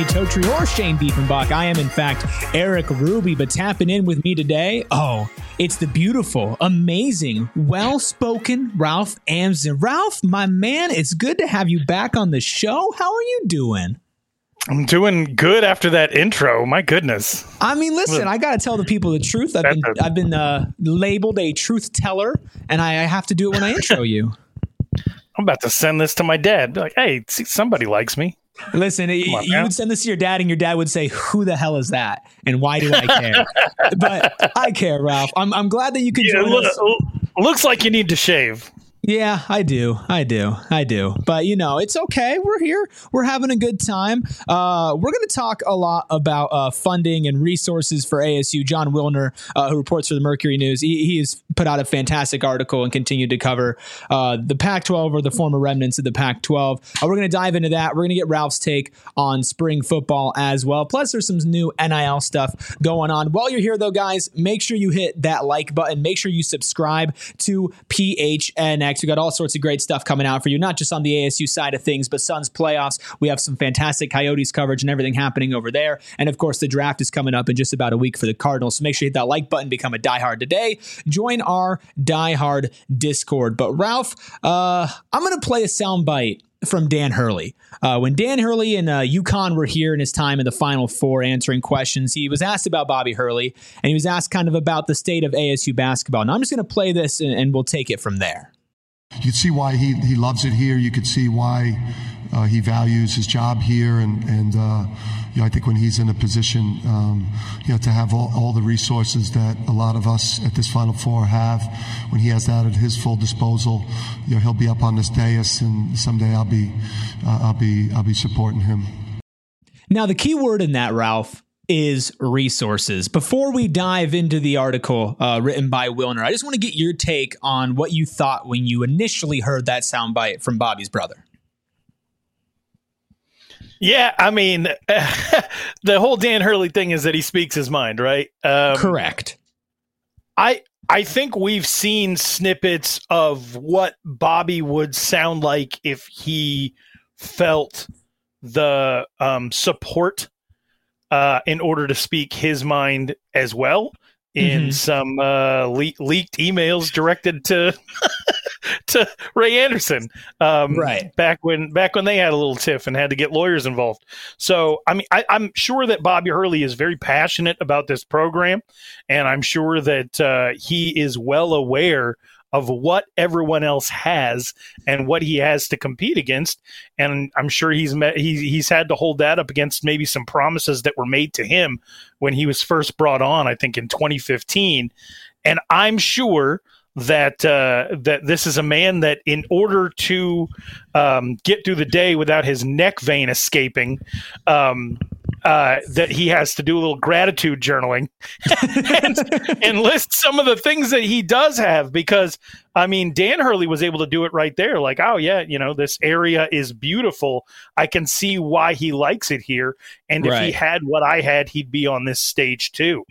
Danny Totri or Shane Diefenbach. I am, in fact, Eric Ruby, but tapping in with me today, it's the beautiful, amazing, well-spoken Ralph Amsden. Ralph, my man, it's good to have you back on the show. How are you doing? I'm doing good after that intro. My goodness. I mean, listen, I got to tell the people the truth. I've been labeled a truth teller, and I have to do it when I intro you. I'm about to send this to my dad. Be like, hey, see, somebody likes me. Listen, you would send this to your dad, and your dad would say, who the hell is that? And why do I care? But I care, Ralph. I'm glad that you could join us. Looks like you need to shave. Yeah, I do. But, it's okay. We're here. We're having a good time. We're going to talk a lot about funding and resources for ASU. Jon Wilner, who reports for the Mercury News, he has put out a fantastic article and continued to cover the Pac-12 or the former remnants of the Pac-12. We're going to dive into that. We're going to get Ralph's take on spring football as well. Plus, there's some new NIL stuff going on. While you're here, though, guys, make sure you hit that like button. Make sure you subscribe to PHNX. We got all sorts of great stuff coming out for you, not just on the ASU side of things, but Suns playoffs. We have some fantastic Coyotes coverage and everything happening over there. And of course, the draft is coming up in just about a week for the Cardinals. So make sure you hit that like button, become a diehard today. Join our diehard Discord. But Ralph, I'm going to play a soundbite from Dan Hurley. When Dan Hurley and UConn were here in his time in the Final Four answering questions, he was asked about Bobby Hurley, and he was asked kind of about the state of ASU basketball. Now, I'm just going to play this, and we'll take it from there. You can see why he loves it here. You could see why he values his job here. And I think when he's in a position, to have all the resources that a lot of us at this Final Four have, when he has that at his full disposal, he'll be up on this dais, and someday I'll be supporting him. Now, the key word in that, Ralph, is resources. Before we dive into the article written by Wilner, I just want to get your take on what you thought when you initially heard that soundbite from Bobby's brother. Yeah, I mean, the whole Dan Hurley thing is that he speaks his mind, right? Correct. I think we've seen snippets of what Bobby would sound like if he felt the support in order to speak his mind as well in some leaked emails directed to to Ray Anderson, right back when they had a little tiff and had to get lawyers involved. So I mean, I'm sure that Bobby Hurley is very passionate about this program, and I'm sure that he is well aware of what everyone else has and what he has to compete against. And I'm sure he's had to hold that up against maybe some promises that were made to him when he was first brought on, I think in 2015. And I'm sure that that this is a man that, in order to get through the day without his neck vein escaping, that he has to do a little gratitude journaling and list some of the things that he does have, because I mean, Dan Hurley was able to do it right there. Like, oh yeah, this area is beautiful. I can see why he likes it here. And if he had what I had, he'd be on this stage too.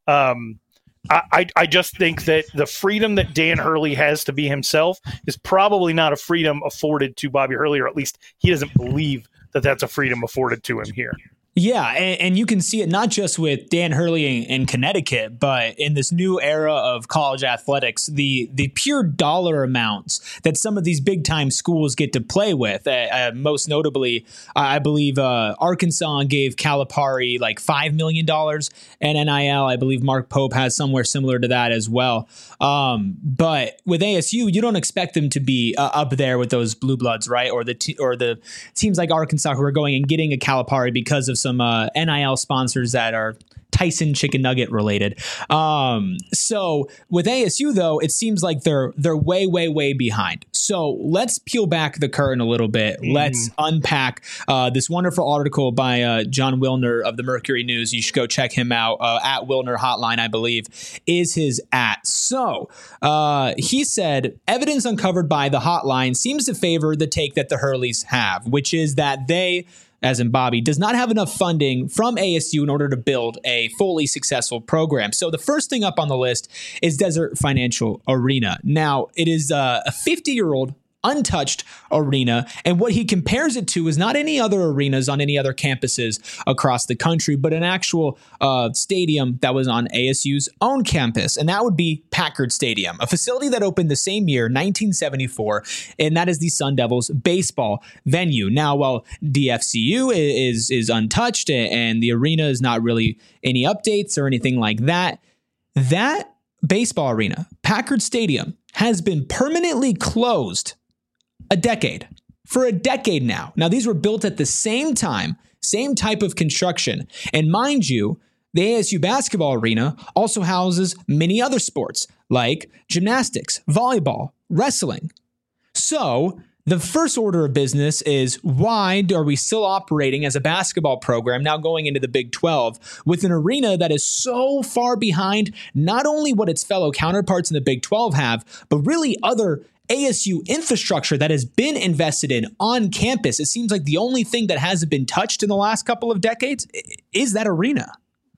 I just think that the freedom that Dan Hurley has to be himself is probably not a freedom afforded to Bobby Hurley, or at least he doesn't believe that that's a freedom afforded to him here. Yeah, and you can see it not just with Dan Hurley in Connecticut, but in this new era of college athletics, the pure dollar amounts that some of these big-time schools get to play with. Most notably, I believe Arkansas gave Calipari like $5 million in NIL. I believe Mark Pope has somewhere similar to that as well. But with ASU, you don't expect them to be up there with those blue bloods, right? Or the teams like Arkansas who are going and getting a Calipari because of some NIL sponsors that are Tyson chicken nugget related. So with ASU, though, it seems like they're way, way, way behind. So let's peel back the curtain a little bit. Let's unpack this wonderful article by Jon Wilner of the Mercury News. You should go check him out. At Wilner Hotline, I believe, is his at. So he said, evidence uncovered by the hotline seems to favor the take that the Hurleys have, which is that they, as in Bobby, does not have enough funding from ASU in order to build a fully successful program. So the first thing up on the list is Desert Financial Arena. Now, it is a 50-year-old untouched arena. And what he compares it to is not any other arenas on any other campuses across the country, but an actual stadium that was on ASU's own campus. And that would be Packard Stadium, a facility that opened the same year, 1974. And that is the Sun Devils baseball venue. Now, while DFCU is untouched and the arena is not really any updates or anything like that, that baseball arena, Packard Stadium, has been permanently closed for a decade now. Now, these were built at the same time, same type of construction. And mind you, the ASU basketball arena also houses many other sports like gymnastics, volleyball, wrestling. So the first order of business is, why are we still operating as a basketball program now going into the Big 12 with an arena that is so far behind not only what its fellow counterparts in the Big 12 have, but really other ASU infrastructure that has been invested in on campus? It seems like the only thing that hasn't been touched in the last couple of decades is that arena.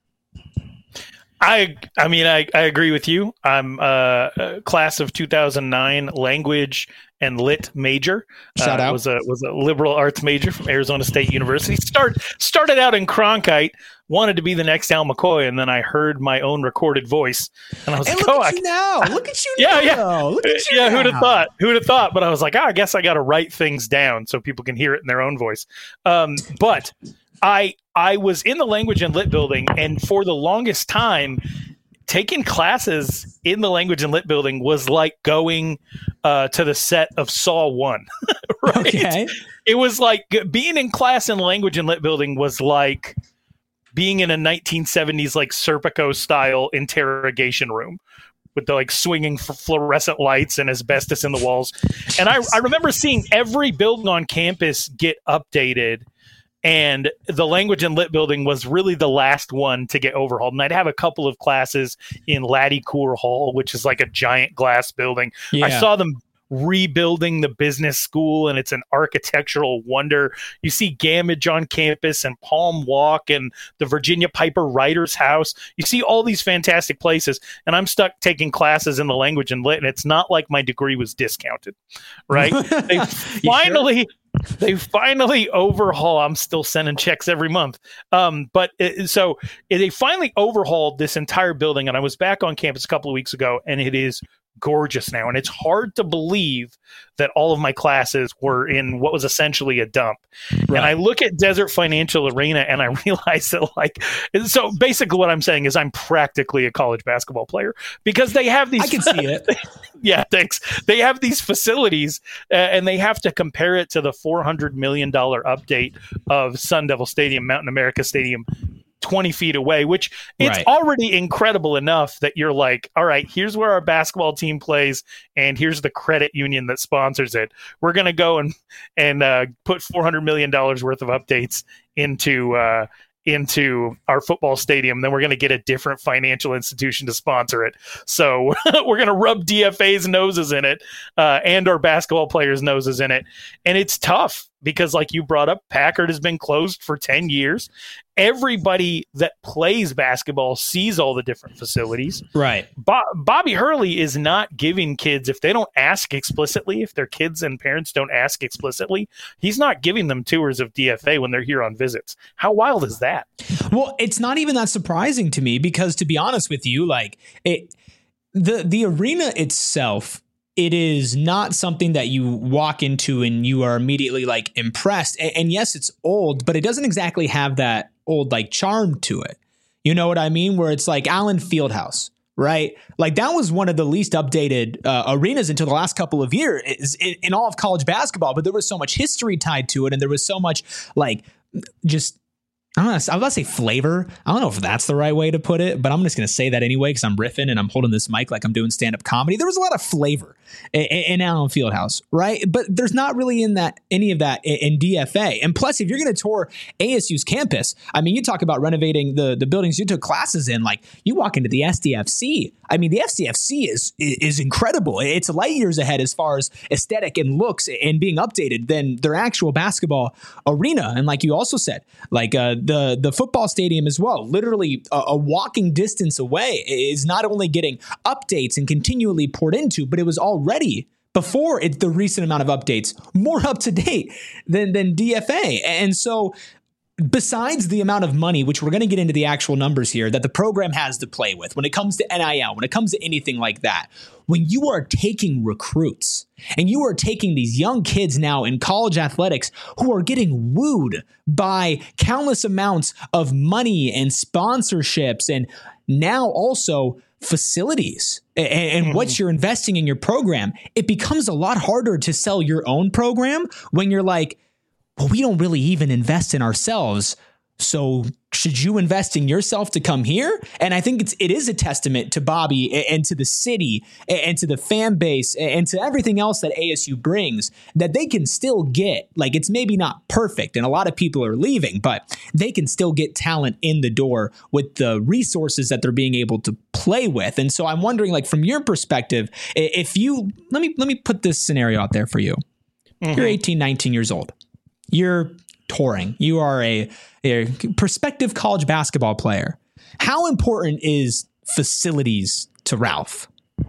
I mean, I agree with you. I'm a class of 2009 language and lit major. Shout out. Was a liberal arts major from Arizona State University. Started out in Cronkite, wanted to be the next Al McCoy, and then I heard my own recorded voice, and I was like, look at you now. Look at you yeah, now. Yeah. Look at you now. Who'd have thought? Who'd have thought? But I was like, I guess I got to write things down so people can hear it in their own voice. But I was in the language and lit building, and for the longest time, taking classes in the language and lit building was like going to the set of Saw 1. Right? Okay. It was like being in class in the language and lit building was like being in a 1970s like Serpico style interrogation room with the like swinging fluorescent lights and asbestos in the walls. And I remember seeing every building on campus get updated. And the language and lit building was really the last one to get overhauled. And I'd have a couple of classes in Laddie Coor Hall, which is like a giant glass building. Yeah. I saw them rebuilding the business school, and it's an architectural wonder. You see Gamage on campus and Palm Walk and the Virginia Piper Writers House. You see all these fantastic places, and I'm stuck taking classes in the language and lit, and it's not like my degree was discounted, right? They finally overhaul. I'm still sending checks every month. So they finally overhauled this entire building, and I was back on campus a couple of weeks ago, and it is gorgeous now. And it's hard to believe that all of my classes were in what was essentially a dump. Right. And I look at Desert Financial Arena and I realize that so basically what I'm saying is I'm practically a college basketball player because they have these. I can see it. Yeah, thanks. They have these facilities and they have to compare it to the $400 million update of Sun Devil Stadium, Mountain America Stadium, 20 feet away, which it's already incredible enough that you're like, all right, here's where our basketball team plays and here's the credit union that sponsors it. We're going to go and put $400 million worth of updates into our football stadium. Then we're going to get a different financial institution to sponsor it. So we're going to rub DFA's noses in it and our basketball players' noses in it. And it's tough because like you brought up, Packard has been closed for 10 years. Everybody that plays basketball sees all the different facilities. Right. Bobby Hurley is not giving kids, if they don't ask explicitly, if their kids and parents don't ask explicitly, he's not giving them tours of DFA when they're here on visits. How wild is that? Well, it's not even that surprising to me because, to be honest with you, the arena itself, it is not something that you walk into and you are immediately like impressed. And yes, it's old, but it doesn't exactly have that old like charm to it. You know what I mean? Where it's like Allen Fieldhouse, right? Like that was one of the least updated arenas until the last couple of years in all of college basketball. But there was so much history tied to it, and there was so much like just. I was about to say flavor. I don't know if that's the right way to put it, but I'm just going to say that anyway because I'm riffing and I'm holding this mic like I'm doing stand-up comedy. There was a lot of flavor in Allen Fieldhouse, right? But there's not really any of that in DFA. And plus, if you're going to tour ASU's campus, I mean, you talk about renovating the buildings you took classes in. Like you walk into the SDFC. I mean, the SDFC is incredible. It's light years ahead as far as aesthetic and looks and being updated than their actual basketball arena. And like you also said, like the football stadium as well, literally a walking distance away, is not only getting updates and continually poured into, but it was already before the recent amount of updates, more up to date than DFA. And so besides the amount of money, which we're going to get into the actual numbers here, that the program has to play with when it comes to NIL, when it comes to anything like that, when you are taking recruits and you are taking these young kids now in college athletics who are getting wooed by countless amounts of money and sponsorships and now also facilities and what you're investing in your program, it becomes a lot harder to sell your own program when you're like, well, we don't really even invest in ourselves. So should you invest in yourself to come here? And I think it is a testament to Bobby and to the city and to the fan base and to everything else that ASU brings that they can still get, like, it's maybe not perfect and a lot of people are leaving, but they can still get talent in the door with the resources that they're being able to play with. And so I'm wondering, like, from your perspective, if you, let me put this scenario out there for you. You're 18, 19 years old. You're touring. You are a prospective college basketball player. How important is facilities to Ralph?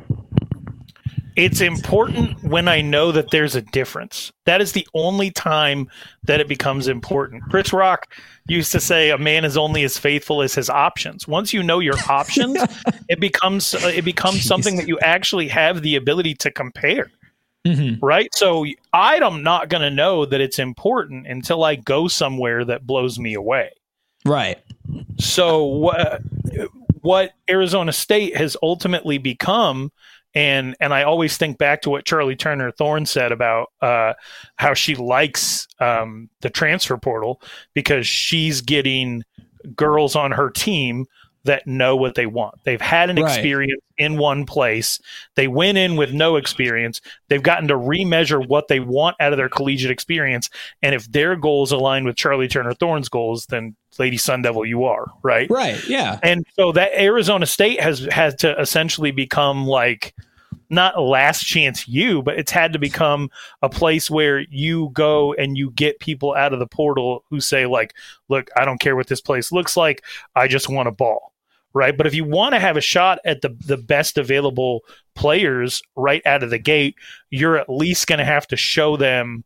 It's important when I know that there's a difference. That is the only time that it becomes important. Chris Rock used to say a man is only as faithful as his options. Once you know your options, it becomes something that you actually have the ability to compare. Right. So I'm not going to know that it's important until I go somewhere that blows me away. Right. So what Arizona State has ultimately become, and I always think back to what Charlie Turner Thorne said about how she likes the transfer portal because she's getting girls on her team that know what they want. They've had an experience in one place. They went in with no experience. They've gotten to remeasure what they want out of their collegiate experience. And if their goals align with Charlie Turner Thorne's goals, then Lady Sun Devil you are, right? Right, yeah. And so that Arizona State has had to essentially become like, not last chance you, but it's had to become a place where you go and you get people out of the portal who say like, look, I don't care what this place looks like. I just want a ball. Right. But if you want to have a shot at the best available players right out of the gate, you're at least going to have to show them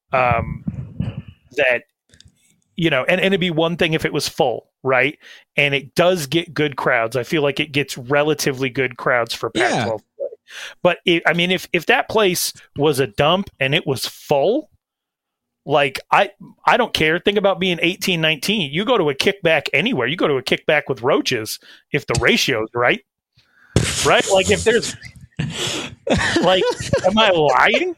that, you know, and it'd be one thing if it was full. Right. And it does get good crowds. I feel like it gets relatively good crowds for Pac-12 play. But if that place was a dump and it was full, like, I don't care. Think about being 18, 19. You go to a kickback anywhere. You go to a kickback with roaches if the ratio's right. Right? Like, if there's... like, am I lying?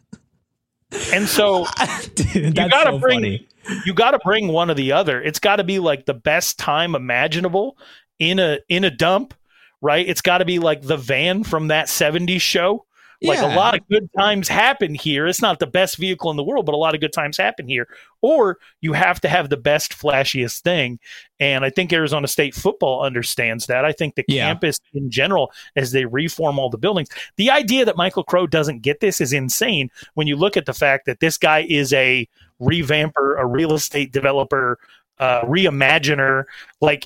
And so Dude, you got to bring... You got to bring one or the other. It's got to be, like, the best time imaginable in a dump, right? It's got to be, like, the van from that 70s show. Like, a lot of good times happen here. It's not the best vehicle in the world, but a lot of good times happen here. Or you have to have the best, flashiest thing. And I think Arizona State football understands that. I think the campus in general, as they reform all the buildings, the idea that Michael Crow doesn't get this is insane when you look at the fact that this guy is a revamper, a real estate developer, reimaginer. Like,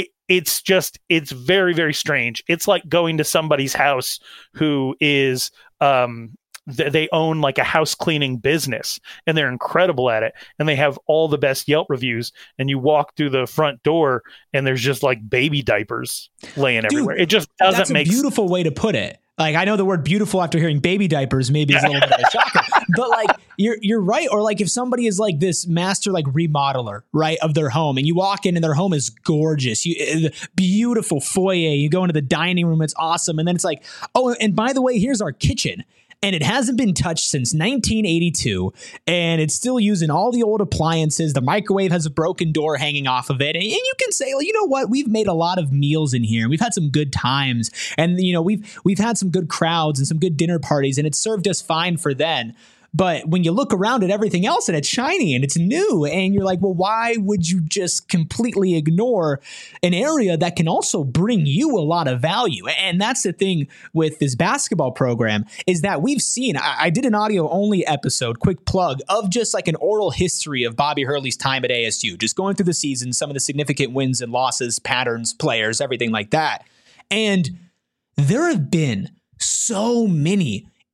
it's very, very strange. It's like going to somebody's house who is, they own like a house cleaning business and they're incredible at it. And they have all the best Yelp reviews. And you walk through the front door and there's just like baby diapers laying everywhere. It just doesn't make sense. That's a beautiful way to put it. Like, I know the word beautiful after hearing baby diapers maybe is a little bit of a shocker, but like you're right. Or like if somebody is like this master, like remodeler, right, of their home, and you walk in and their home is gorgeous, beautiful foyer, you go into the dining room, it's awesome. And then it's like, oh, and by the way, here's our kitchen. And it hasn't been touched since 1982, and it's still using all the old appliances. The microwave has a broken door hanging off of it. And you can say, well, you know what? We've made a lot of meals in here. We've had some good times. And, you know, we've had some good crowds and some good dinner parties, and it served us fine for then. But when you look around at everything else and it's shiny and it's new and you're like, well, why would you just completely ignore an area that can also bring you a lot of value? And that's the thing with this basketball program is that we've seen, I did an audio only episode, quick plug, of just like an oral history of Bobby Hurley's time at ASU, just going through the season, some of the significant wins and losses, patterns, players, everything like that. And there have been so many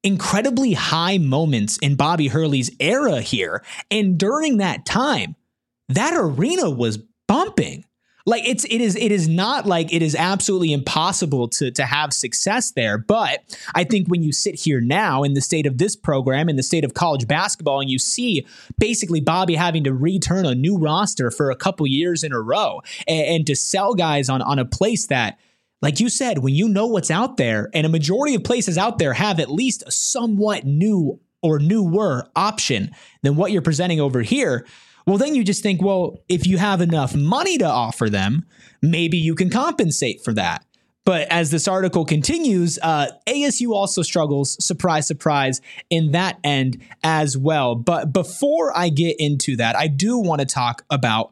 incredibly high moments in Bobby Hurley's era here. And during that time, that arena was bumping. Like it is not like it is absolutely impossible to have success there. But I think when you sit here now in the state of this program, in the state of college basketball, and you see basically Bobby having to return a new roster for a couple years in a row and to sell guys on a place that, like you said, when you know what's out there, and a majority of places out there have at least a somewhat new or newer option than what you're presenting over here. Well, then you just think, well, if you have enough money to offer them, maybe you can compensate for that. But as this article continues, ASU also struggles, surprise, surprise, in that end as well. But before I get into that, I do want to talk about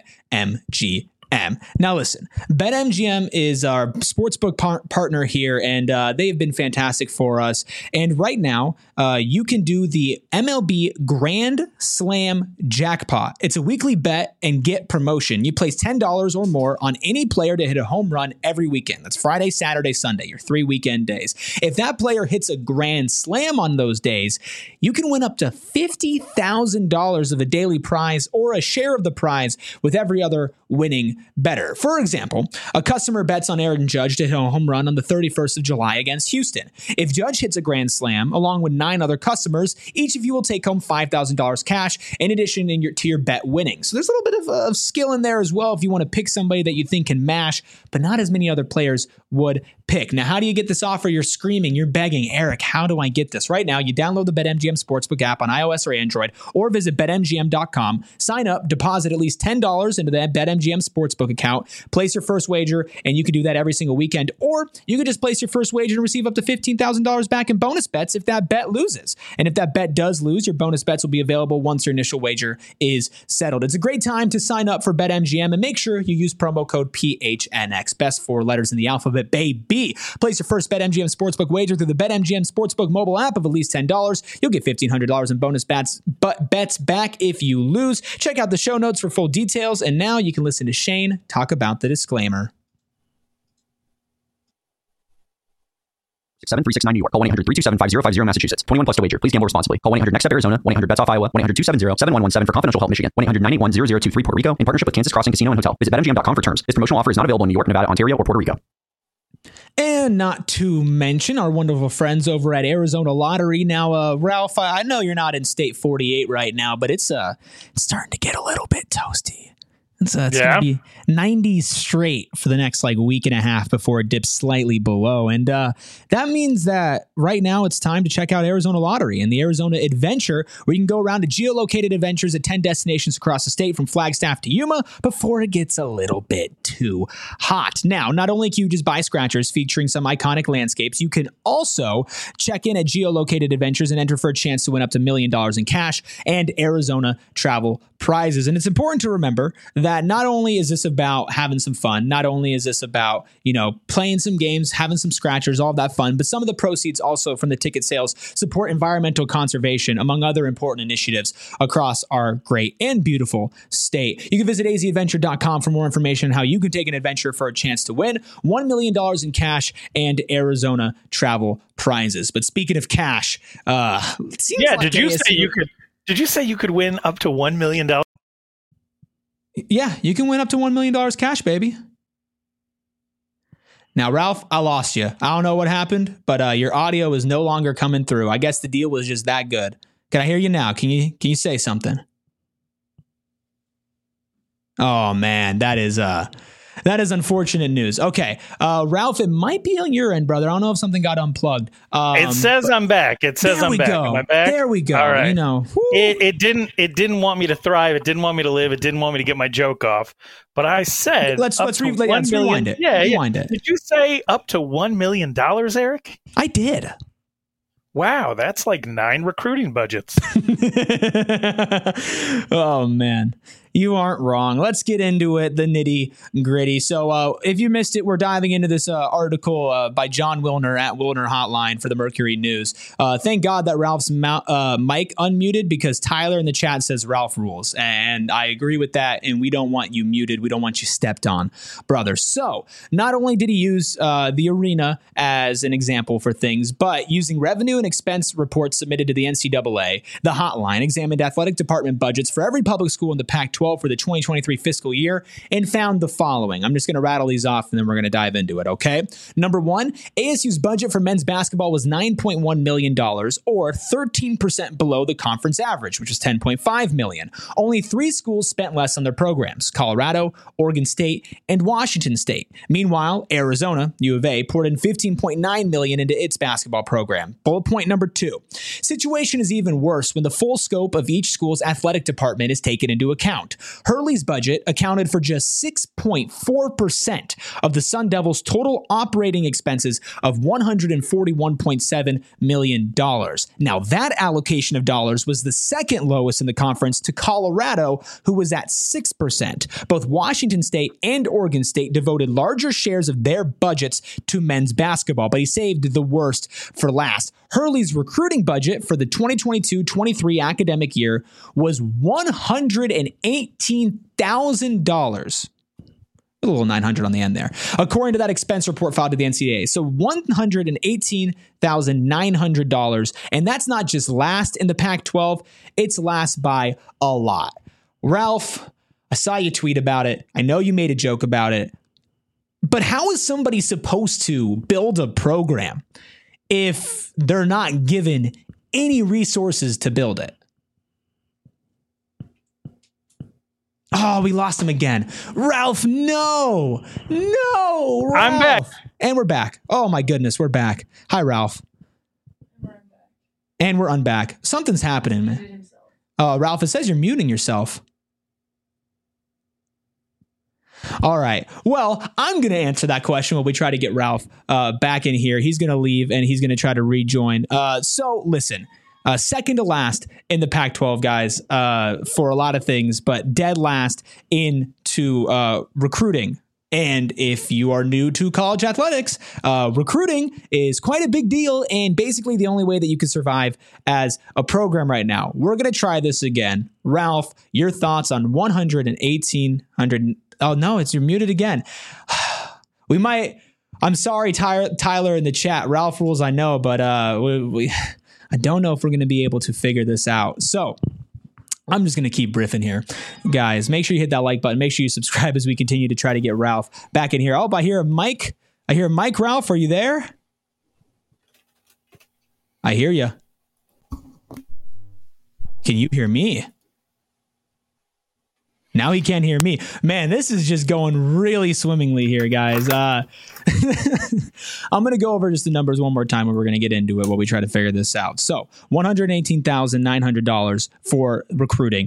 BetMGM. Now, listen, BetMGM is our sportsbook partner here, and they've been fantastic for us. And right now, you can do the MLB Grand Slam Jackpot. It's a weekly bet and get promotion. You place $10 or more on any player to hit a home run every weekend. That's Friday, Saturday, Sunday, your 3 weekend days. If that player hits a grand slam on those days, you can win up to $50,000 of a daily prize or a share of the prize with every other winning better. For example, a customer bets on Aaron Judge to hit a home run on the 31st of July against Houston. If Judge hits a grand slam, along with 9 other customers, each of you will take home $5,000 cash in addition to your bet winning. So there's a little bit of skill in there as well if you want to pick somebody that you think can mash, but not as many other players would pick. Now, how do you get this offer? You're screaming, you're begging, Eric, how do I get this? Right now, you download the BetMGM Sportsbook app on iOS or Android, or visit BetMGM.com, sign up, deposit at least $10 into that BetMGM Sportsbook account, place your first wager, and you can do that every single weekend. Or you could just place your first wager and receive up to $15,000 back in bonus bets if that bet loses. And if that bet does lose, your bonus bets will be available once your initial wager is settled. It's a great time to sign up for BetMGM, and make sure you use promo code PHNX, best 4 letters in the alphabet, baby. Place your first BetMGM Sportsbook wager through the BetMGM Sportsbook mobile app of at least $10. You'll get $1,500 in bonus bets back if you lose. Check out the show notes for full details, and now you can listen to Shane talk about the disclaimer. 7369 New York. Call 1-800-327-5050 Massachusetts. 21 plus to wager. Please gamble responsibly. Call 1-800-NEXT-STEP Arizona. 1-800-BETS-OFF Iowa. 1-800-270-7117 for confidential help Michigan. 1-800-981-0023 Puerto Rico in partnership with Kansas Crossing Casino and Hotel. Visit BetMGM.com for terms. This promotional offer is not available in New York, Nevada, Ontario, or Puerto Rico. And not to mention our wonderful friends over at Arizona Lottery. Now, Ralph, I know you're not in State 48 right now, but it's starting to get a little bit toasty. It's going to be 90s straight for the next week and a half before it dips slightly below. And that means that right now it's time to check out Arizona Lottery and the Arizona Adventure, where you can go around to geolocated adventures at 10 destinations across the state from Flagstaff to Yuma before it gets a little bit too hot. Now, not only can you just buy scratchers featuring some iconic landscapes, you can also check in at geolocated adventures and enter for a chance to win up to $1 million in cash and Arizona travel prizes. And it's important to remember that not only is this about having some fun, not only is this about, playing some games, having some scratchers, all of that fun, but some of the proceeds also from the ticket sales support environmental conservation, among other important initiatives across our great and beautiful state. You can visit azadventure.com for more information on how you can take an adventure for a chance to win $1 million in cash and Arizona travel prizes. But speaking of cash, Did you say you could win up to $1 million? Yeah, you can win up to $1 million cash, baby. Now, Ralph, I lost you. I don't know what happened, but your audio is no longer coming through. I guess the deal was just that good. Can I hear you now? Can you say something? Oh man, that is unfortunate news. Okay, Ralph, it might be on your end, brother. I don't know if something got unplugged. It says I'm back. It says I'm back. Am I back? There we go. All right. It didn't want me to thrive. It didn't want me to live. It didn't want me to get my joke off. But I said, let's rewind it. Yeah, rewind it. Did you say up to $1 million, Eric? I did. Wow, that's like 9 recruiting budgets. Oh man. You aren't wrong. Let's get into it, the nitty gritty. So if you missed it, we're diving into this article by John Wilner at Wilner Hotline for the Mercury News. Thank God that Ralph's mic unmuted, because Tyler in the chat says Ralph rules. And I agree with that. And we don't want you muted. We don't want you stepped on, brother. So not only did he use the arena as an example for things, but using revenue and expense reports submitted to the NCAA, the hotline examined athletic department budgets for every public school in the Pac-12 for the 2023 fiscal year and found the following. I'm just going to rattle these off and then we're going to dive into it, okay? Number one, ASU's budget for men's basketball was $9.1 million, or 13% below the conference average, which was $10.5 million. Only 3 schools spent less on their programs: Colorado, Oregon State, and Washington State. Meanwhile, Arizona, U of A, poured in $15.9 million into its basketball program. Bullet point number 2. Situation is even worse when the full scope of each school's athletic department is taken into account. Hurley's budget accounted for just 6.4% of the Sun Devils' total operating expenses of $141.7 million. Now, that allocation of dollars was the second lowest in the conference to Colorado, who was at 6%. Both Washington State and Oregon State devoted larger shares of their budgets to men's basketball, but he saved the worst for last. Hurley's recruiting budget for the 2022-23 academic year was $118,000. A little 900 on the end there, according to that expense report filed to the NCAA. So $118,900. And that's not just last in the Pac-12. It's last by a lot. Ralph, I saw you tweet about it. I know you made a joke about it. But how is somebody supposed to build a program if they're not given any resources to build it? Oh, we lost him again. Ralph, no, Ralph. I'm back. And we're back. Oh, my goodness, we're back. Hi, Ralph. And we're unback. Something's happening, man. Ralph, it says you're muting yourself. All right. Well, I'm going to answer that question when we try to get Ralph back in here. He's going to leave and he's going to try to rejoin. So listen. Second to last in the Pac-12, guys, for a lot of things, but dead last into recruiting. And if you are new to college athletics, recruiting is quite a big deal and basically the only way that you can survive as a program right now. We're going to try this again. Ralph, your thoughts on 11800? Oh, no, you're muted again. We might. I'm sorry, Tyler in the chat. Ralph rules, I know, but I don't know if we're going to be able to figure this out. So I'm just going to keep riffing here. Guys, make sure you hit that like button. Make sure you subscribe as we continue to try to get Ralph back in here. Oh, I hear Mike. I hear Mike. Ralph, are you there? I hear you. Can you hear me? Now he can't hear me. Man, this is just going really swimmingly here, guys. I'm going to go over just the numbers one more time and we're going to get into it while we try to figure this out. So $118,900 for recruiting,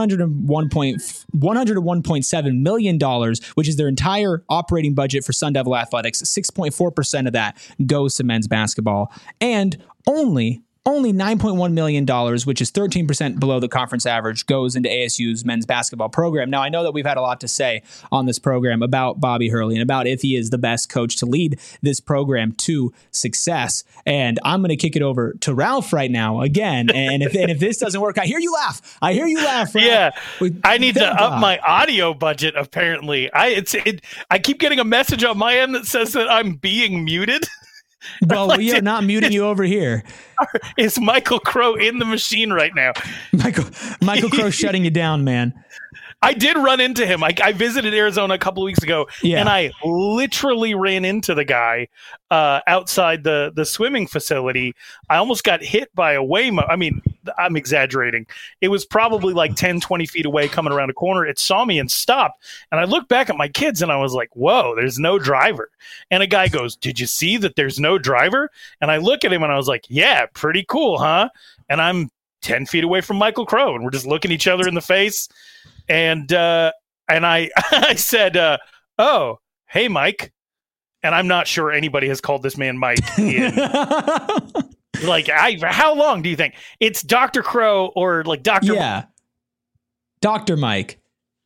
$101.7 million, which is their entire operating budget for Sun Devil Athletics. 6.4% of that goes to men's basketball, and only $9.1 million, which is 13% below the conference average, goes into ASU's men's basketball program. Now, I know that we've had a lot to say on this program about Bobby Hurley and about if he is the best coach to lead this program to success. And I'm going to kick it over to Ralph right now again. And if this doesn't work, I hear you laugh. Ralph. Yeah, I need to up my audio budget, apparently. I keep getting a message on my end that says that I'm being muted. Well, we are not muting you over here. Is Michael Crow in the machine right now? Michael Crow shutting you down, man. I did run into him. I visited Arizona a couple of weeks ago, and I literally ran into the guy outside the swimming facility. I almost got hit by a Waymo. I mean, I'm exaggerating. It was probably like 10, 20 feet away coming around a corner. It saw me and stopped. And I looked back at my kids, and I was like, whoa, there's no driver. And a guy goes, did you see that there's no driver? And I look at him, and I was like, yeah, pretty cool, huh? And I'm 10 feet away from Michael Crow, and we're just looking each other in the face. And I I said, oh, hey, Mike. And I'm not sure anybody has called this man Mike in like, how long do you think? It's Dr. Crow or like Dr. Yeah. Dr. Mike.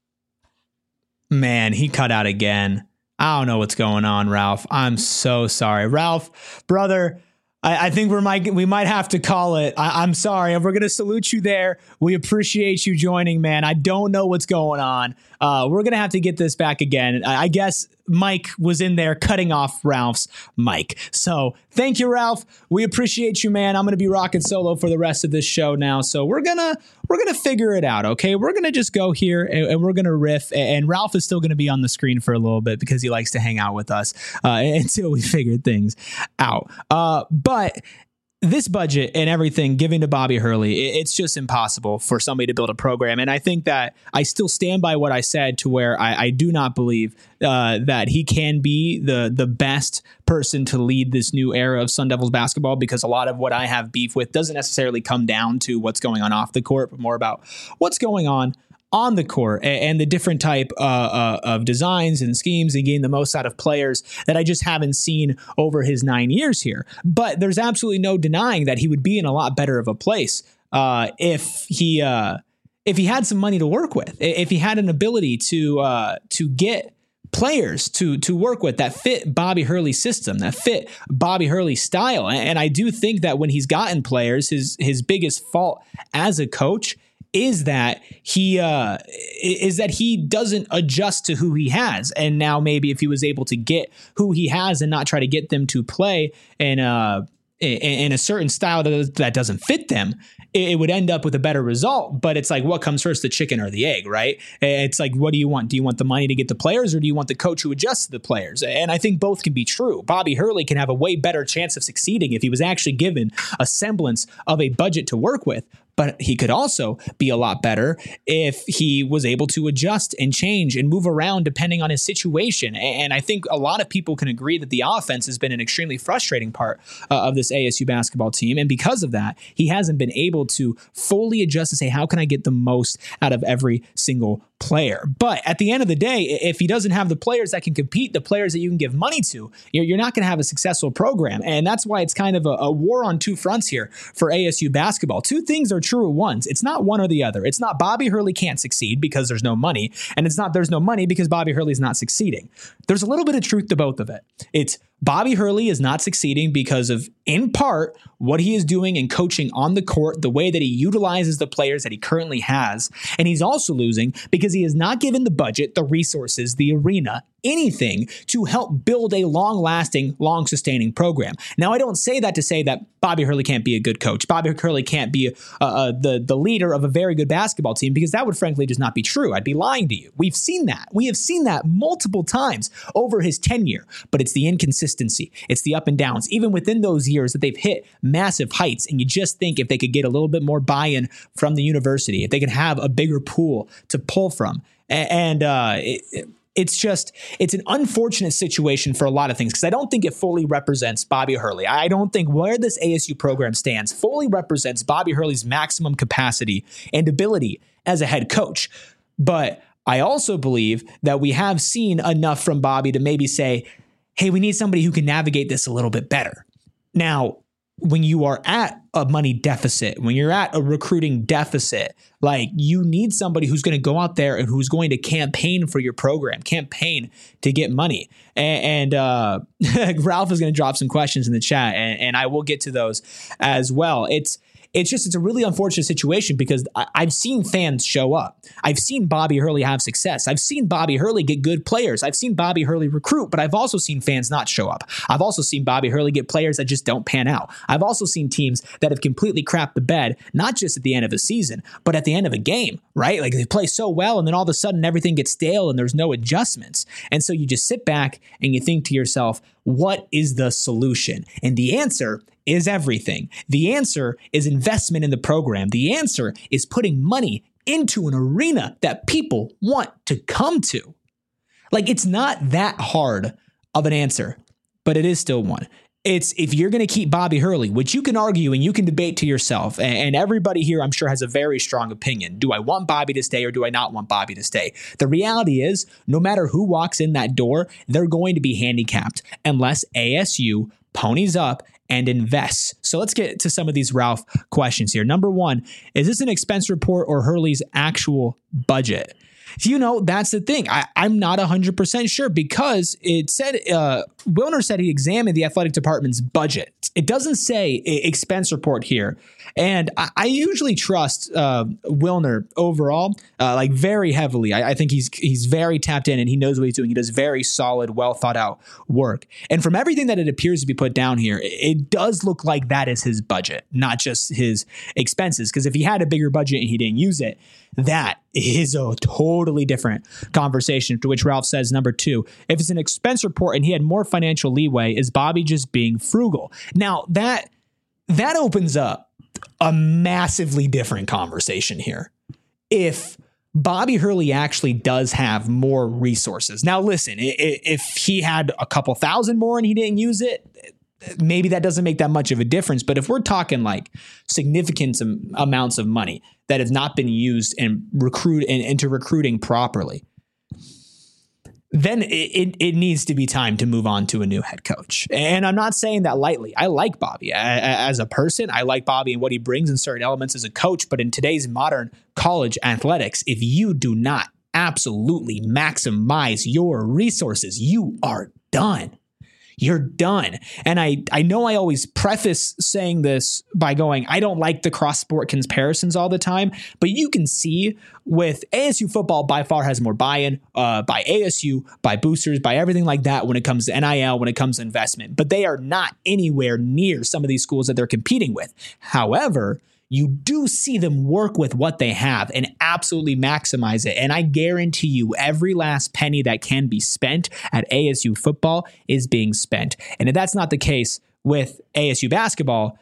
Man, he cut out again. I don't know what's going on, Ralph. I'm so sorry. Ralph, brother, I think we might have to call it. I'm sorry. We're going to salute you there. We appreciate you joining, man. I don't know what's going on. We're going to have to get this back again. I guess Mike was in there cutting off Ralph's mic. So thank you, Ralph. We appreciate you, man. I'm going to be rocking solo for the rest of this show now. So we're going to figure it out. Okay. We're going to just go here and we're going to riff, and Ralph is still going to be on the screen for a little bit because he likes to hang out with us until we figure things out. But this budget and everything giving to Bobby Hurley, it's just impossible for somebody to build a program. And I think that I still stand by what I said, to where I do not believe that he can be the best person to lead this new era of Sun Devils basketball, because a lot of what I have beef with doesn't necessarily come down to what's going on off the court, but more about what's going on the court and the different type of designs and schemes and getting the most out of players that I just haven't seen over his 9 years here. But there's absolutely no denying that he would be in a lot better of a place if he had some money to work with, if he had an ability to get players to work with that fit Bobby Hurley's system, that fit Bobby Hurley's style. And I do think that when he's gotten players, his biggest fault as a coach is that he doesn't adjust to who he has. And now maybe if he was able to get who he has and not try to get them to play in a certain style that doesn't fit them, it would end up with a better result. But it's like, what comes first, the chicken or the egg, right? It's like, what do you want? Do you want the money to get the players, or do you want the coach who adjusts to the players? And I think both can be true. Bobby Hurley can have a way better chance of succeeding if he was actually given a semblance of a budget to work with. But he could also be a lot better if he was able to adjust and change and move around depending on his situation. And I think a lot of people can agree that the offense has been an extremely frustrating part of this ASU basketball team. And because of that, he hasn't been able to fully adjust and say, how can I get the most out of every single player? But at the end of the day, if he doesn't have the players that can compete, the players that you can give money to, you're not going to have a successful program. And that's why it's kind of a war on two fronts here for ASU basketball. Two things are true at once. It's not one or the other. It's not Bobby Hurley can't succeed because there's no money, and it's not there's no money because Bobby Hurley's not succeeding. There's a little bit of truth to both of it. It's Bobby Hurley is not succeeding because of, in part, what he is doing in coaching on the court, the way that he utilizes the players that he currently has. And he's also losing because he has not given the budget, the resources, the arena, anything to help build a long-lasting, long-sustaining program. Now, I don't say that to say that Bobby Hurley can't be a good coach. Bobby Hurley can't be the leader of a very good basketball team, because that would frankly just not be true. I'd be lying to you. We've seen that. We have seen that multiple times over his tenure, but it's the inconsistency. It's the up and downs, even within those years that they've hit massive heights. And you just think if they could get a little bit more buy-in from the university, if they could have a bigger pool to pull from, it's an unfortunate situation for a lot of things, because I don't think it fully represents Bobby Hurley. I don't think where this ASU program stands fully represents Bobby Hurley's maximum capacity and ability as a head coach. But I also believe that we have seen enough from Bobby to maybe say, hey, we need somebody who can navigate this a little bit better. Now, when you are at a money deficit, when you're at a recruiting deficit, like, you need somebody who's going to go out there and who's going to campaign for your program, campaign to get money. And Ralph is going to drop some questions in the chat, and I will get to those as well. It's a really unfortunate situation, because I've seen fans show up. I've seen Bobby Hurley have success. I've seen Bobby Hurley get good players. I've seen Bobby Hurley recruit, but I've also seen fans not show up. I've also seen Bobby Hurley get players that just don't pan out. I've also seen teams that have completely crapped the bed, not just at the end of a season, but at the end of a game, right? Like, they play so well, and then all of a sudden everything gets stale and there's no adjustments. And so you just sit back and you think to yourself, what is the solution? And the answer is everything. The answer is investment in the program. The answer is putting money into an arena that people want to come to. Like, it's not that hard of an answer, but it is still one. It's, if you're going to keep Bobby Hurley, which you can argue and you can debate to yourself, and everybody here, I'm sure, has a very strong opinion. Do I want Bobby to stay, or do I not want Bobby to stay? The reality is, no matter who walks in that door, they're going to be handicapped unless ASU ponies up and invests. So let's get to some of these Ralph questions here. Number one, is this an expense report or Hurley's actual budget? That's the thing. I'm not 100% sure because it said, Wilner said he examined the athletic department's budget. It doesn't say expense report here. And I usually trust Wilner overall, like very heavily. I think he's very tapped in and he knows what he's doing. He does very solid, well thought out work. And from everything that it appears to be put down here, it does look like that is his budget, not just his expenses. Because if he had a bigger budget and he didn't use it, that is a totally different conversation. To which Ralph says, number 2, if it's an expense report and he had more financial leeway, is Bobby just being frugal? Now that opens up a massively different conversation here. If Bobby Hurley actually does have more resources. Now, listen, if he had a couple thousand more and he didn't use it, maybe that doesn't make that much of a difference. But if we're talking like significant amounts of money that have not been used and into recruiting properly, then it needs to be time to move on to a new head coach. And I'm not saying that lightly. I like Bobby as a person. I like Bobby and what he brings in certain elements as a coach. But in today's modern college athletics, if you do not absolutely maximize your resources, you are done. You're done. And I know I always preface saying this by going, I don't like the cross-sport comparisons all the time, but you can see with ASU football by far has more buy-in by ASU, by boosters, by everything like that when it comes to NIL, when it comes to investment. But they are not anywhere near some of these schools that they're competing with. However, you do see them work with what they have and absolutely maximize it. And I guarantee you every last penny that can be spent at ASU football is being spent. And if that's not the case with ASU basketball,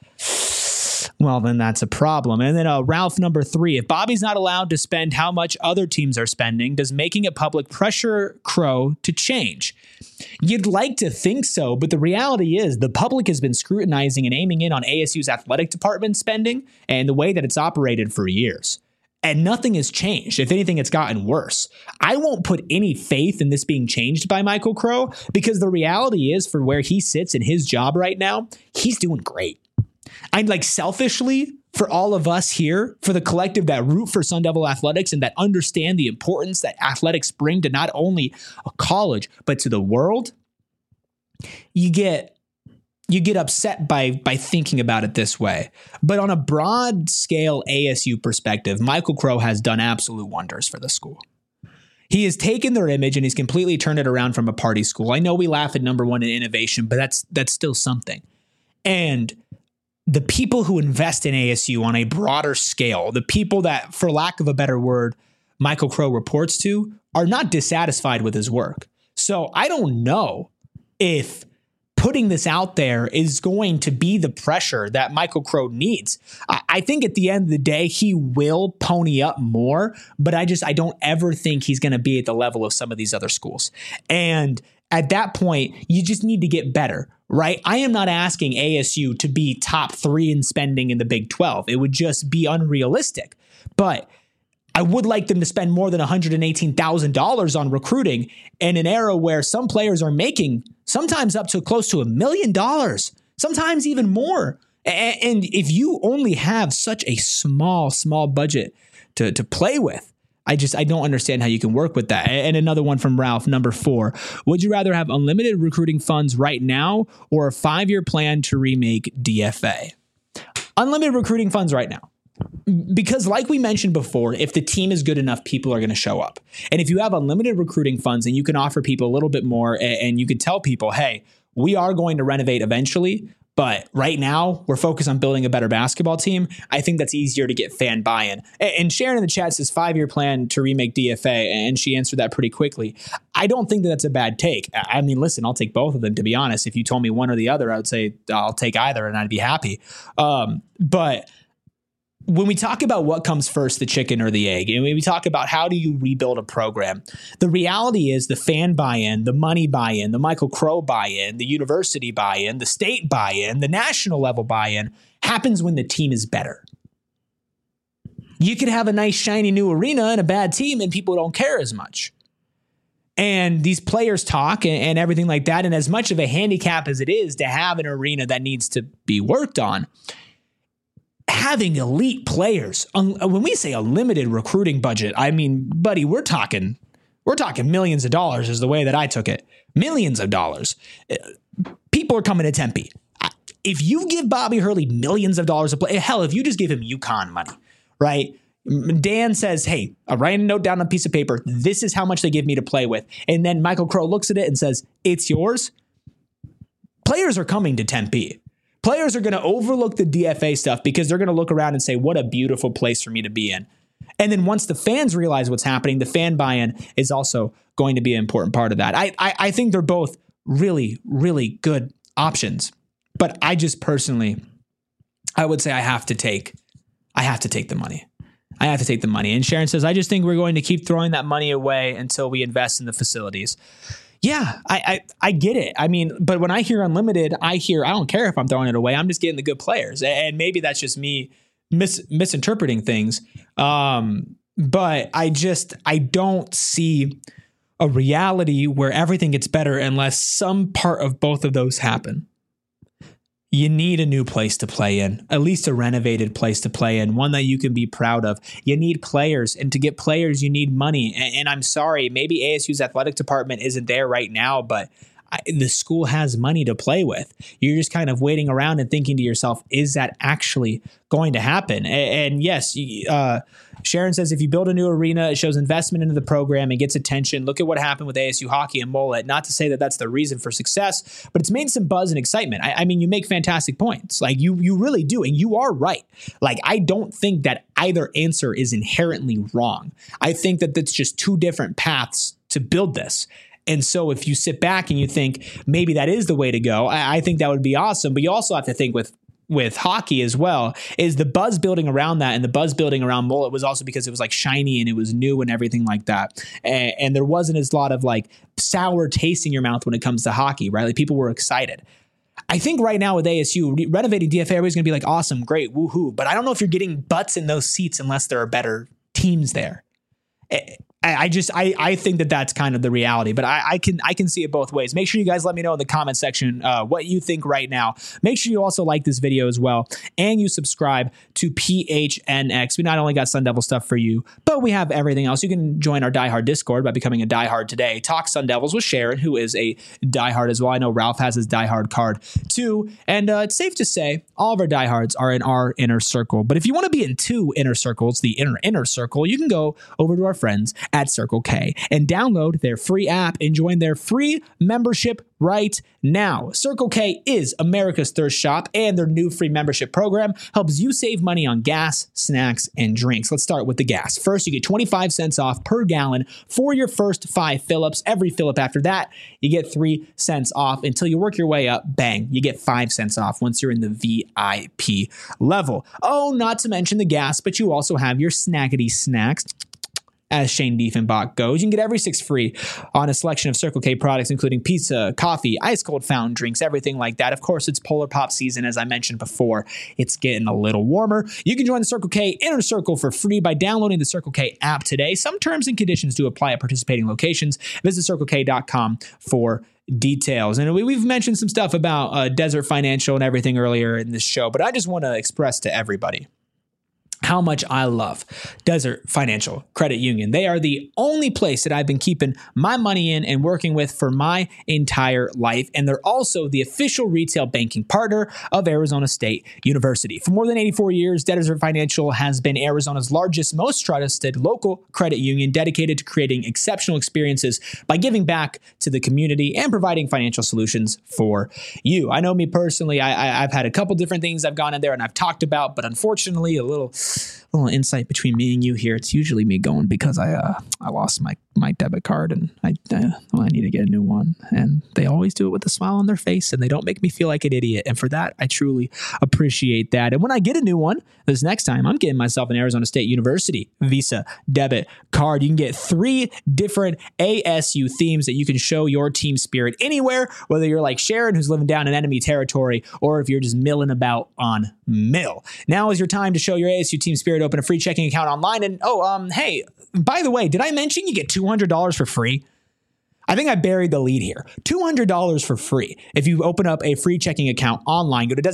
well, then that's a problem. And then Ralph, number 3, if Bobby's not allowed to spend how much other teams are spending, does making it public pressure Crow to change? You'd like to think so, but the reality is the public has been scrutinizing and aiming in on ASU's athletic department spending and the way that it's operated for years. And nothing has changed. If anything, it's gotten worse. I won't put any faith in this being changed by Michael Crow because the reality is for where he sits in his job right now, he's doing great. I'm like selfishly for all of us here, for the collective that root for Sun Devil athletics and that understand the importance that athletics bring to not only a college, but to the world, you get upset by thinking about it this way. But on a broad scale ASU perspective, Michael Crow has done absolute wonders for the school. He has taken their image and he's completely turned it around from a party school. I know we laugh at number 1 in innovation, but that's still something. And the people who invest in ASU on a broader scale, the people that, for lack of a better word, Michael Crow reports to, are not dissatisfied with his work. So I don't know if putting this out there is going to be the pressure that Michael Crow needs. I think at the end of the day, he will pony up more, but I don't ever think he's going to be at the level of some of these other schools. And at that point, you just need to get better, right? I am not asking ASU to be top 3 in spending in the Big 12. It would just be unrealistic. But I would like them to spend more than $118,000 on recruiting in an era where some players are making sometimes up to close to $1 million, sometimes even more. And if you only have such a small budget to play with, I don't understand how you can work with that. And another one from Ralph, number 4. Would you rather have unlimited recruiting funds right now or a 5-year plan to remake DFA? Unlimited recruiting funds right now. Because like we mentioned before, if the team is good enough, people are going to show up. And if you have unlimited recruiting funds and you can offer people a little bit more and you can tell people, hey, we are going to renovate eventually, but right now we're focused on building a better basketball team. I think that's easier to get fan buy-in. And Sharon in the chat says 5-year plan to remake DFA, and she answered that pretty quickly. I don't think that that's a bad take. I mean, listen, I'll take both of them, to be honest. If you told me one or the other, I would say I'll take either and I'd be happy. But when we talk about what comes first, the chicken or the egg, and when we talk about how do you rebuild a program, the reality is the fan buy-in, the money buy-in, the Michael Crow buy-in, the university buy-in, the state buy-in, the national level buy-in happens when the team is better. You could have a nice shiny new arena and a bad team and people don't care as much. And these players talk and everything like that. And as much of a handicap as it is to have an arena that needs to be worked on, having elite players. When we say a limited recruiting budget, I mean, buddy, we're talking millions of dollars is the way that I took it. Millions of dollars. People are coming to Tempe. If you give Bobby Hurley millions of dollars to play, hell, if you just give him UConn money, right? Dan says, hey, I write a note down on a piece of paper. This is how much they give me to play with. And then Michael Crow looks at it and says, it's yours. Players are coming to Tempe. Players are going to overlook the DFA stuff because they're going to look around and say, what a beautiful place for me to be in. And then once the fans realize what's happening, the fan buy-in is also going to be an important part of that. I think they're both really, really good options. But I just personally, I would say I have to take the money. I have to take the money. And Sharon says, I just think we're going to keep throwing that money away until we invest in the facilities. Yeah, I get it. I mean, but when I hear unlimited, I don't care if I'm throwing it away. I'm just getting the good players. And maybe that's just me misinterpreting things. But I don't see a reality where everything gets better unless some part of both of those happen. You need a new place to play in, at least a renovated place to play in, one that you can be proud of. You need players, and to get players, you need money. And I'm sorry, maybe ASU's athletic department isn't there right now, but the school has money to play with. You're just kind of waiting around and thinking to yourself, is that actually going to happen? And yes, Sharon says, if you build a new arena, it shows investment into the program and gets attention. Look at what happened with ASU hockey and Mullet. Not to say that that's the reason for success, but it's made some buzz and excitement. I mean, you make fantastic points. Like you really do. And you are right. Like, I don't think that either answer is inherently wrong. I think that that's just two different paths to build this. And so if you sit back and you think maybe that is the way to go, I think that would be awesome. But you also have to think with hockey as well, is the buzz building around that, and the buzz building around Mullet was also because it was like shiny and it was new and everything like that. And there wasn't as lot of like sour taste in your mouth when it comes to hockey, right? Like people were excited. I think right now with ASU, renovating DFA, everybody's going to be like, awesome, great, woohoo. But I don't know if you're getting butts in those seats unless there are better teams there. I think that that's kind of the reality, but I can see it both ways. Make sure you guys let me know in the comment section what you think right now. Make sure you also like this video as well, and you subscribe to PHNX. We not only got Sun Devil stuff for you, but we have everything else. You can join our diehard Discord by becoming a diehard today. Talk Sun Devils with Sharon, who is a diehard as well. I know Ralph has his diehard card too, and it's safe to say all of our diehards are in our inner circle. But if you want to be in two inner circles, the inner circle, you can go over to our friends at Circle K and download their free app and join their free membership right now. Circle K is America's thirst shop, and their new free membership program helps you save money on gas, snacks, and drinks. Let's start with the gas. First, you get 25 cents off per gallon for your first 5 fill-ups. Every fill-up after that, you get 3 cents off until you work your way up. Bang, you get 5 cents off once you're in the VIP level. Oh, not to mention the gas, but you also have your snackety snacks. As Shane Diefenbach goes, you can get every 6 free on a selection of Circle K products, including pizza, coffee, ice cold fountain drinks, everything like that. Of course, it's Polar Pop season, as I mentioned before. It's getting a little warmer. You can join the Circle K Inner Circle for free by downloading the Circle K app today. Some terms and conditions do apply at participating locations. Visit CircleK.com for details. And we've mentioned some stuff about Desert Financial and everything earlier in this show, but I just want to express to everybody how much I love Desert Financial Credit Union. They are the only place that I've been keeping my money in and working with for my entire life. And they're also the official retail banking partner of Arizona State University. For more than 84 years, Desert Financial has been Arizona's largest, most trusted local credit union, dedicated to creating exceptional experiences by giving back to the community and providing financial solutions for you. I know me personally, I've had a couple different things I've gone in there and I've talked about, but unfortunately, a little insight between me and you here. It's usually me going because I lost my debit card and I need to get a new one. And they always do it with a smile on their face and they don't make me feel like an idiot. And for that, I truly appreciate that. And when I get a new one, this next time, I'm getting myself an Arizona State University Visa debit card. You can get 3 different ASU themes that you can show your team spirit anywhere, whether you're like Sharon, who's living down in enemy territory, or if you're just milling about on mill. Now is your time to show your ASU team spirit. Open a free checking account online. And hey, by the way, did I mention you get $200 for free? I think I buried the lead here. $200 for free. If you open up a free checking account online, go to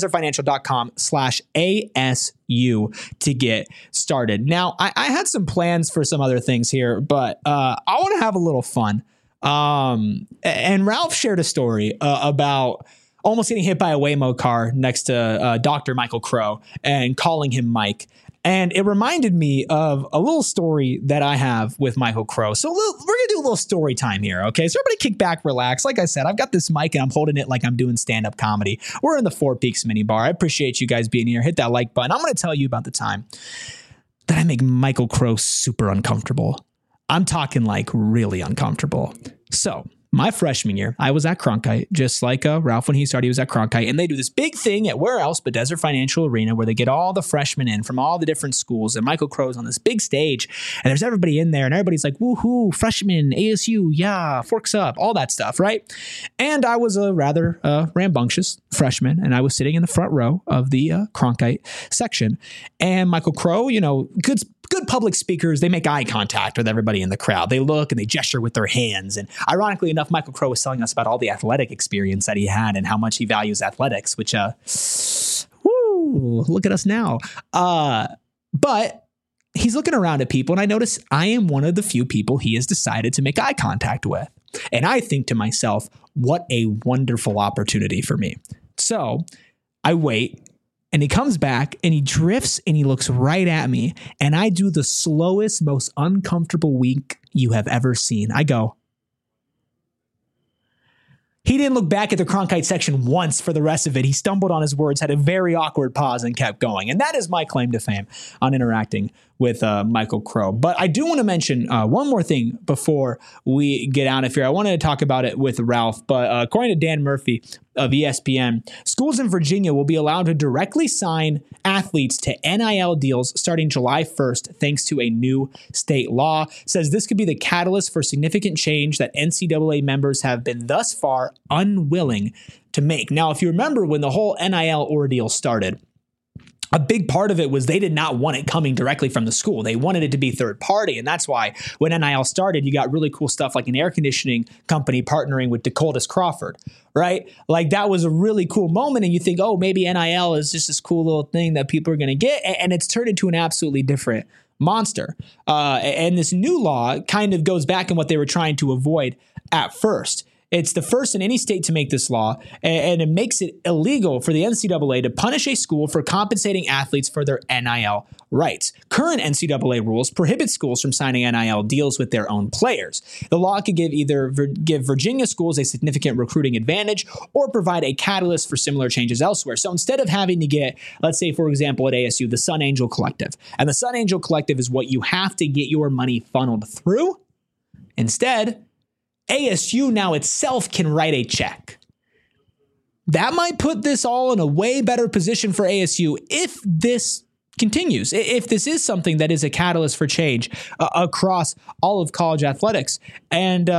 desertfinancial.com/ASU to get started. Now, I had some plans for some other things here, but I want to have a little fun. And Ralph shared a story about almost getting hit by a Waymo car next to Dr. Michael Crow and calling him Mike. And it reminded me of a little story that I have with Michael Crow. So we're going to do a little story time here, okay? So everybody kick back, relax. Like I said, I've got this mic and I'm holding it like I'm doing stand-up comedy. We're in the Four Peaks mini bar. I appreciate you guys being here. Hit that like button. I'm going to tell you about the time that I make Michael Crow super uncomfortable. I'm talking like really uncomfortable. So my freshman year, I was at Cronkite, just like Ralph when he started, he was at Cronkite, and they do this big thing at where else but Desert Financial Arena where they get all the freshmen in from all the different schools, and Michael Crow's on this big stage, and there's everybody in there, and everybody's like, woohoo, freshmen, ASU, yeah, forks up, all that stuff, right? And I was a rather rambunctious freshman, and I was sitting in the front row of the Cronkite section, and Michael Crow, you know, good public speakers, they make eye contact with everybody in the crowd. They look and they gesture with their hands. And ironically enough, Michael Crow was telling us about all the athletic experience that he had and how much he values athletics, which, look at us now. But he's looking around at people, and I notice I am one of the few people he has decided to make eye contact with. And I think to myself, what a wonderful opportunity for me. So I wait. And he comes back and he drifts and he looks right at me. And I do the slowest, most uncomfortable wink you have ever seen. I go. He didn't look back at the Cronkite section once for the rest of it. He stumbled on his words, had a very awkward pause, and kept going. And that is my claim to fame on interacting with Michael Crow. But I do want to mention one more thing before we get out of here. I wanted to talk about it with Ralph, but according to Dan Murphy of ESPN, schools in Virginia will be allowed to directly sign athletes to NIL deals starting July 1st, thanks to a new state law. Says this could be the catalyst for significant change that NCAA members have been thus far unwilling to make. Now, if you remember when the whole NIL ordeal started, a big part of it was they did not want it coming directly from the school. They wanted it to be third party. And that's why when NIL started, you got really cool stuff like an air conditioning company partnering with Dakotas Crawford, right? Like that was a really cool moment. And you think, oh, maybe NIL is just this cool little thing that people are going to get. And it's turned into an absolutely different monster. And this new law kind of goes back in what they were trying to avoid at first. It's the first in any state to make this law, and it makes it illegal for the NCAA to punish a school for compensating athletes for their NIL rights. Current NCAA rules prohibit schools from signing NIL deals with their own players. The law could give Virginia schools a significant recruiting advantage or provide a catalyst for similar changes elsewhere. So instead of having to get, let's say, for example, at ASU, the Sun Angel Collective, and the Sun Angel Collective is what you have to get your money funneled through, instead, ASU now itself can write a check. That might put this all in a way better position for ASU if this continues, if this is something that is a catalyst for change across all of college athletics. And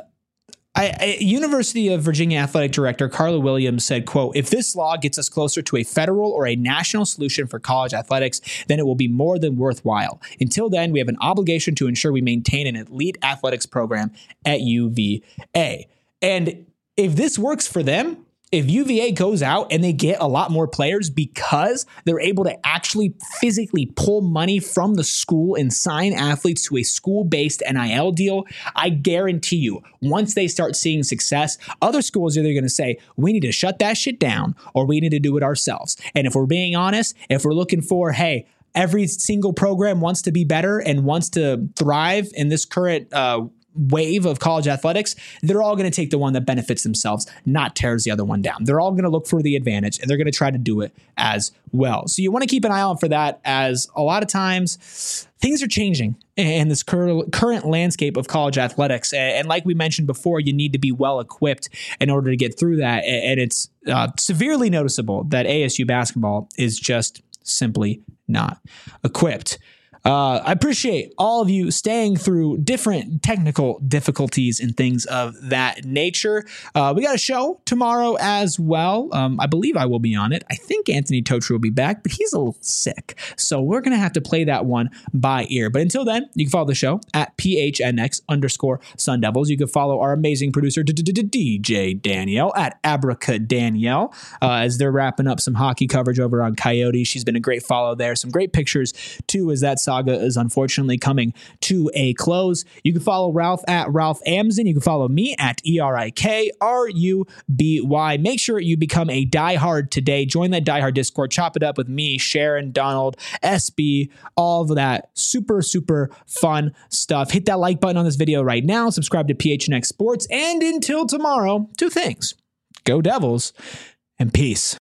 University of Virginia Athletic Director Carla Williams said, quote, if this law gets us closer to a federal or a national solution for college athletics, then it will be more than worthwhile. Until then, we have an obligation to ensure we maintain an elite athletics program at UVA. And if this works for them, if UVA goes out and they get a lot more players because they're able to actually physically pull money from the school and sign athletes to a school-based NIL deal, I guarantee you, once they start seeing success, other schools are either going to say, we need to shut that shit down or we need to do it ourselves. And if we're being honest, if we're looking for, hey, every single program wants to be better and wants to thrive in this current wave of college athletics, they're all going to take the one that benefits themselves, not tears the other one down. They're all going to look for the advantage and they're going to try to do it as well. So you want to keep an eye out for that, as a lot of times things are changing in this current landscape of college athletics. And like we mentioned before, you need to be well equipped in order to get through that. And it's severely noticeable that ASU basketball is just simply not equipped. I appreciate all of you staying through different technical difficulties and things of that nature. We got a show tomorrow as well. I believe I will be on it. I think Anthony Totri will be back, but he's a little sick. So we're going to have to play that one by ear. But until then, you can follow the show at PHNX_Sun Devils. You can follow our amazing producer, DJ Danielle, at Abraca Danielle, as they're wrapping up some hockey coverage over on Coyote. She's been a great follow there. Some great pictures, too, as that saga is unfortunately coming to a close. You can follow Ralph at Ralph Amsden. You can follow me at ERIKRUBY. Make sure you become a diehard today. Join that diehard Discord. Chop it up with me, Sharon, Donald, SB, all of that super, super fun stuff. Hit that like button on this video right now. Subscribe to PHNX Sports. And until tomorrow, two things. Go Devils and peace.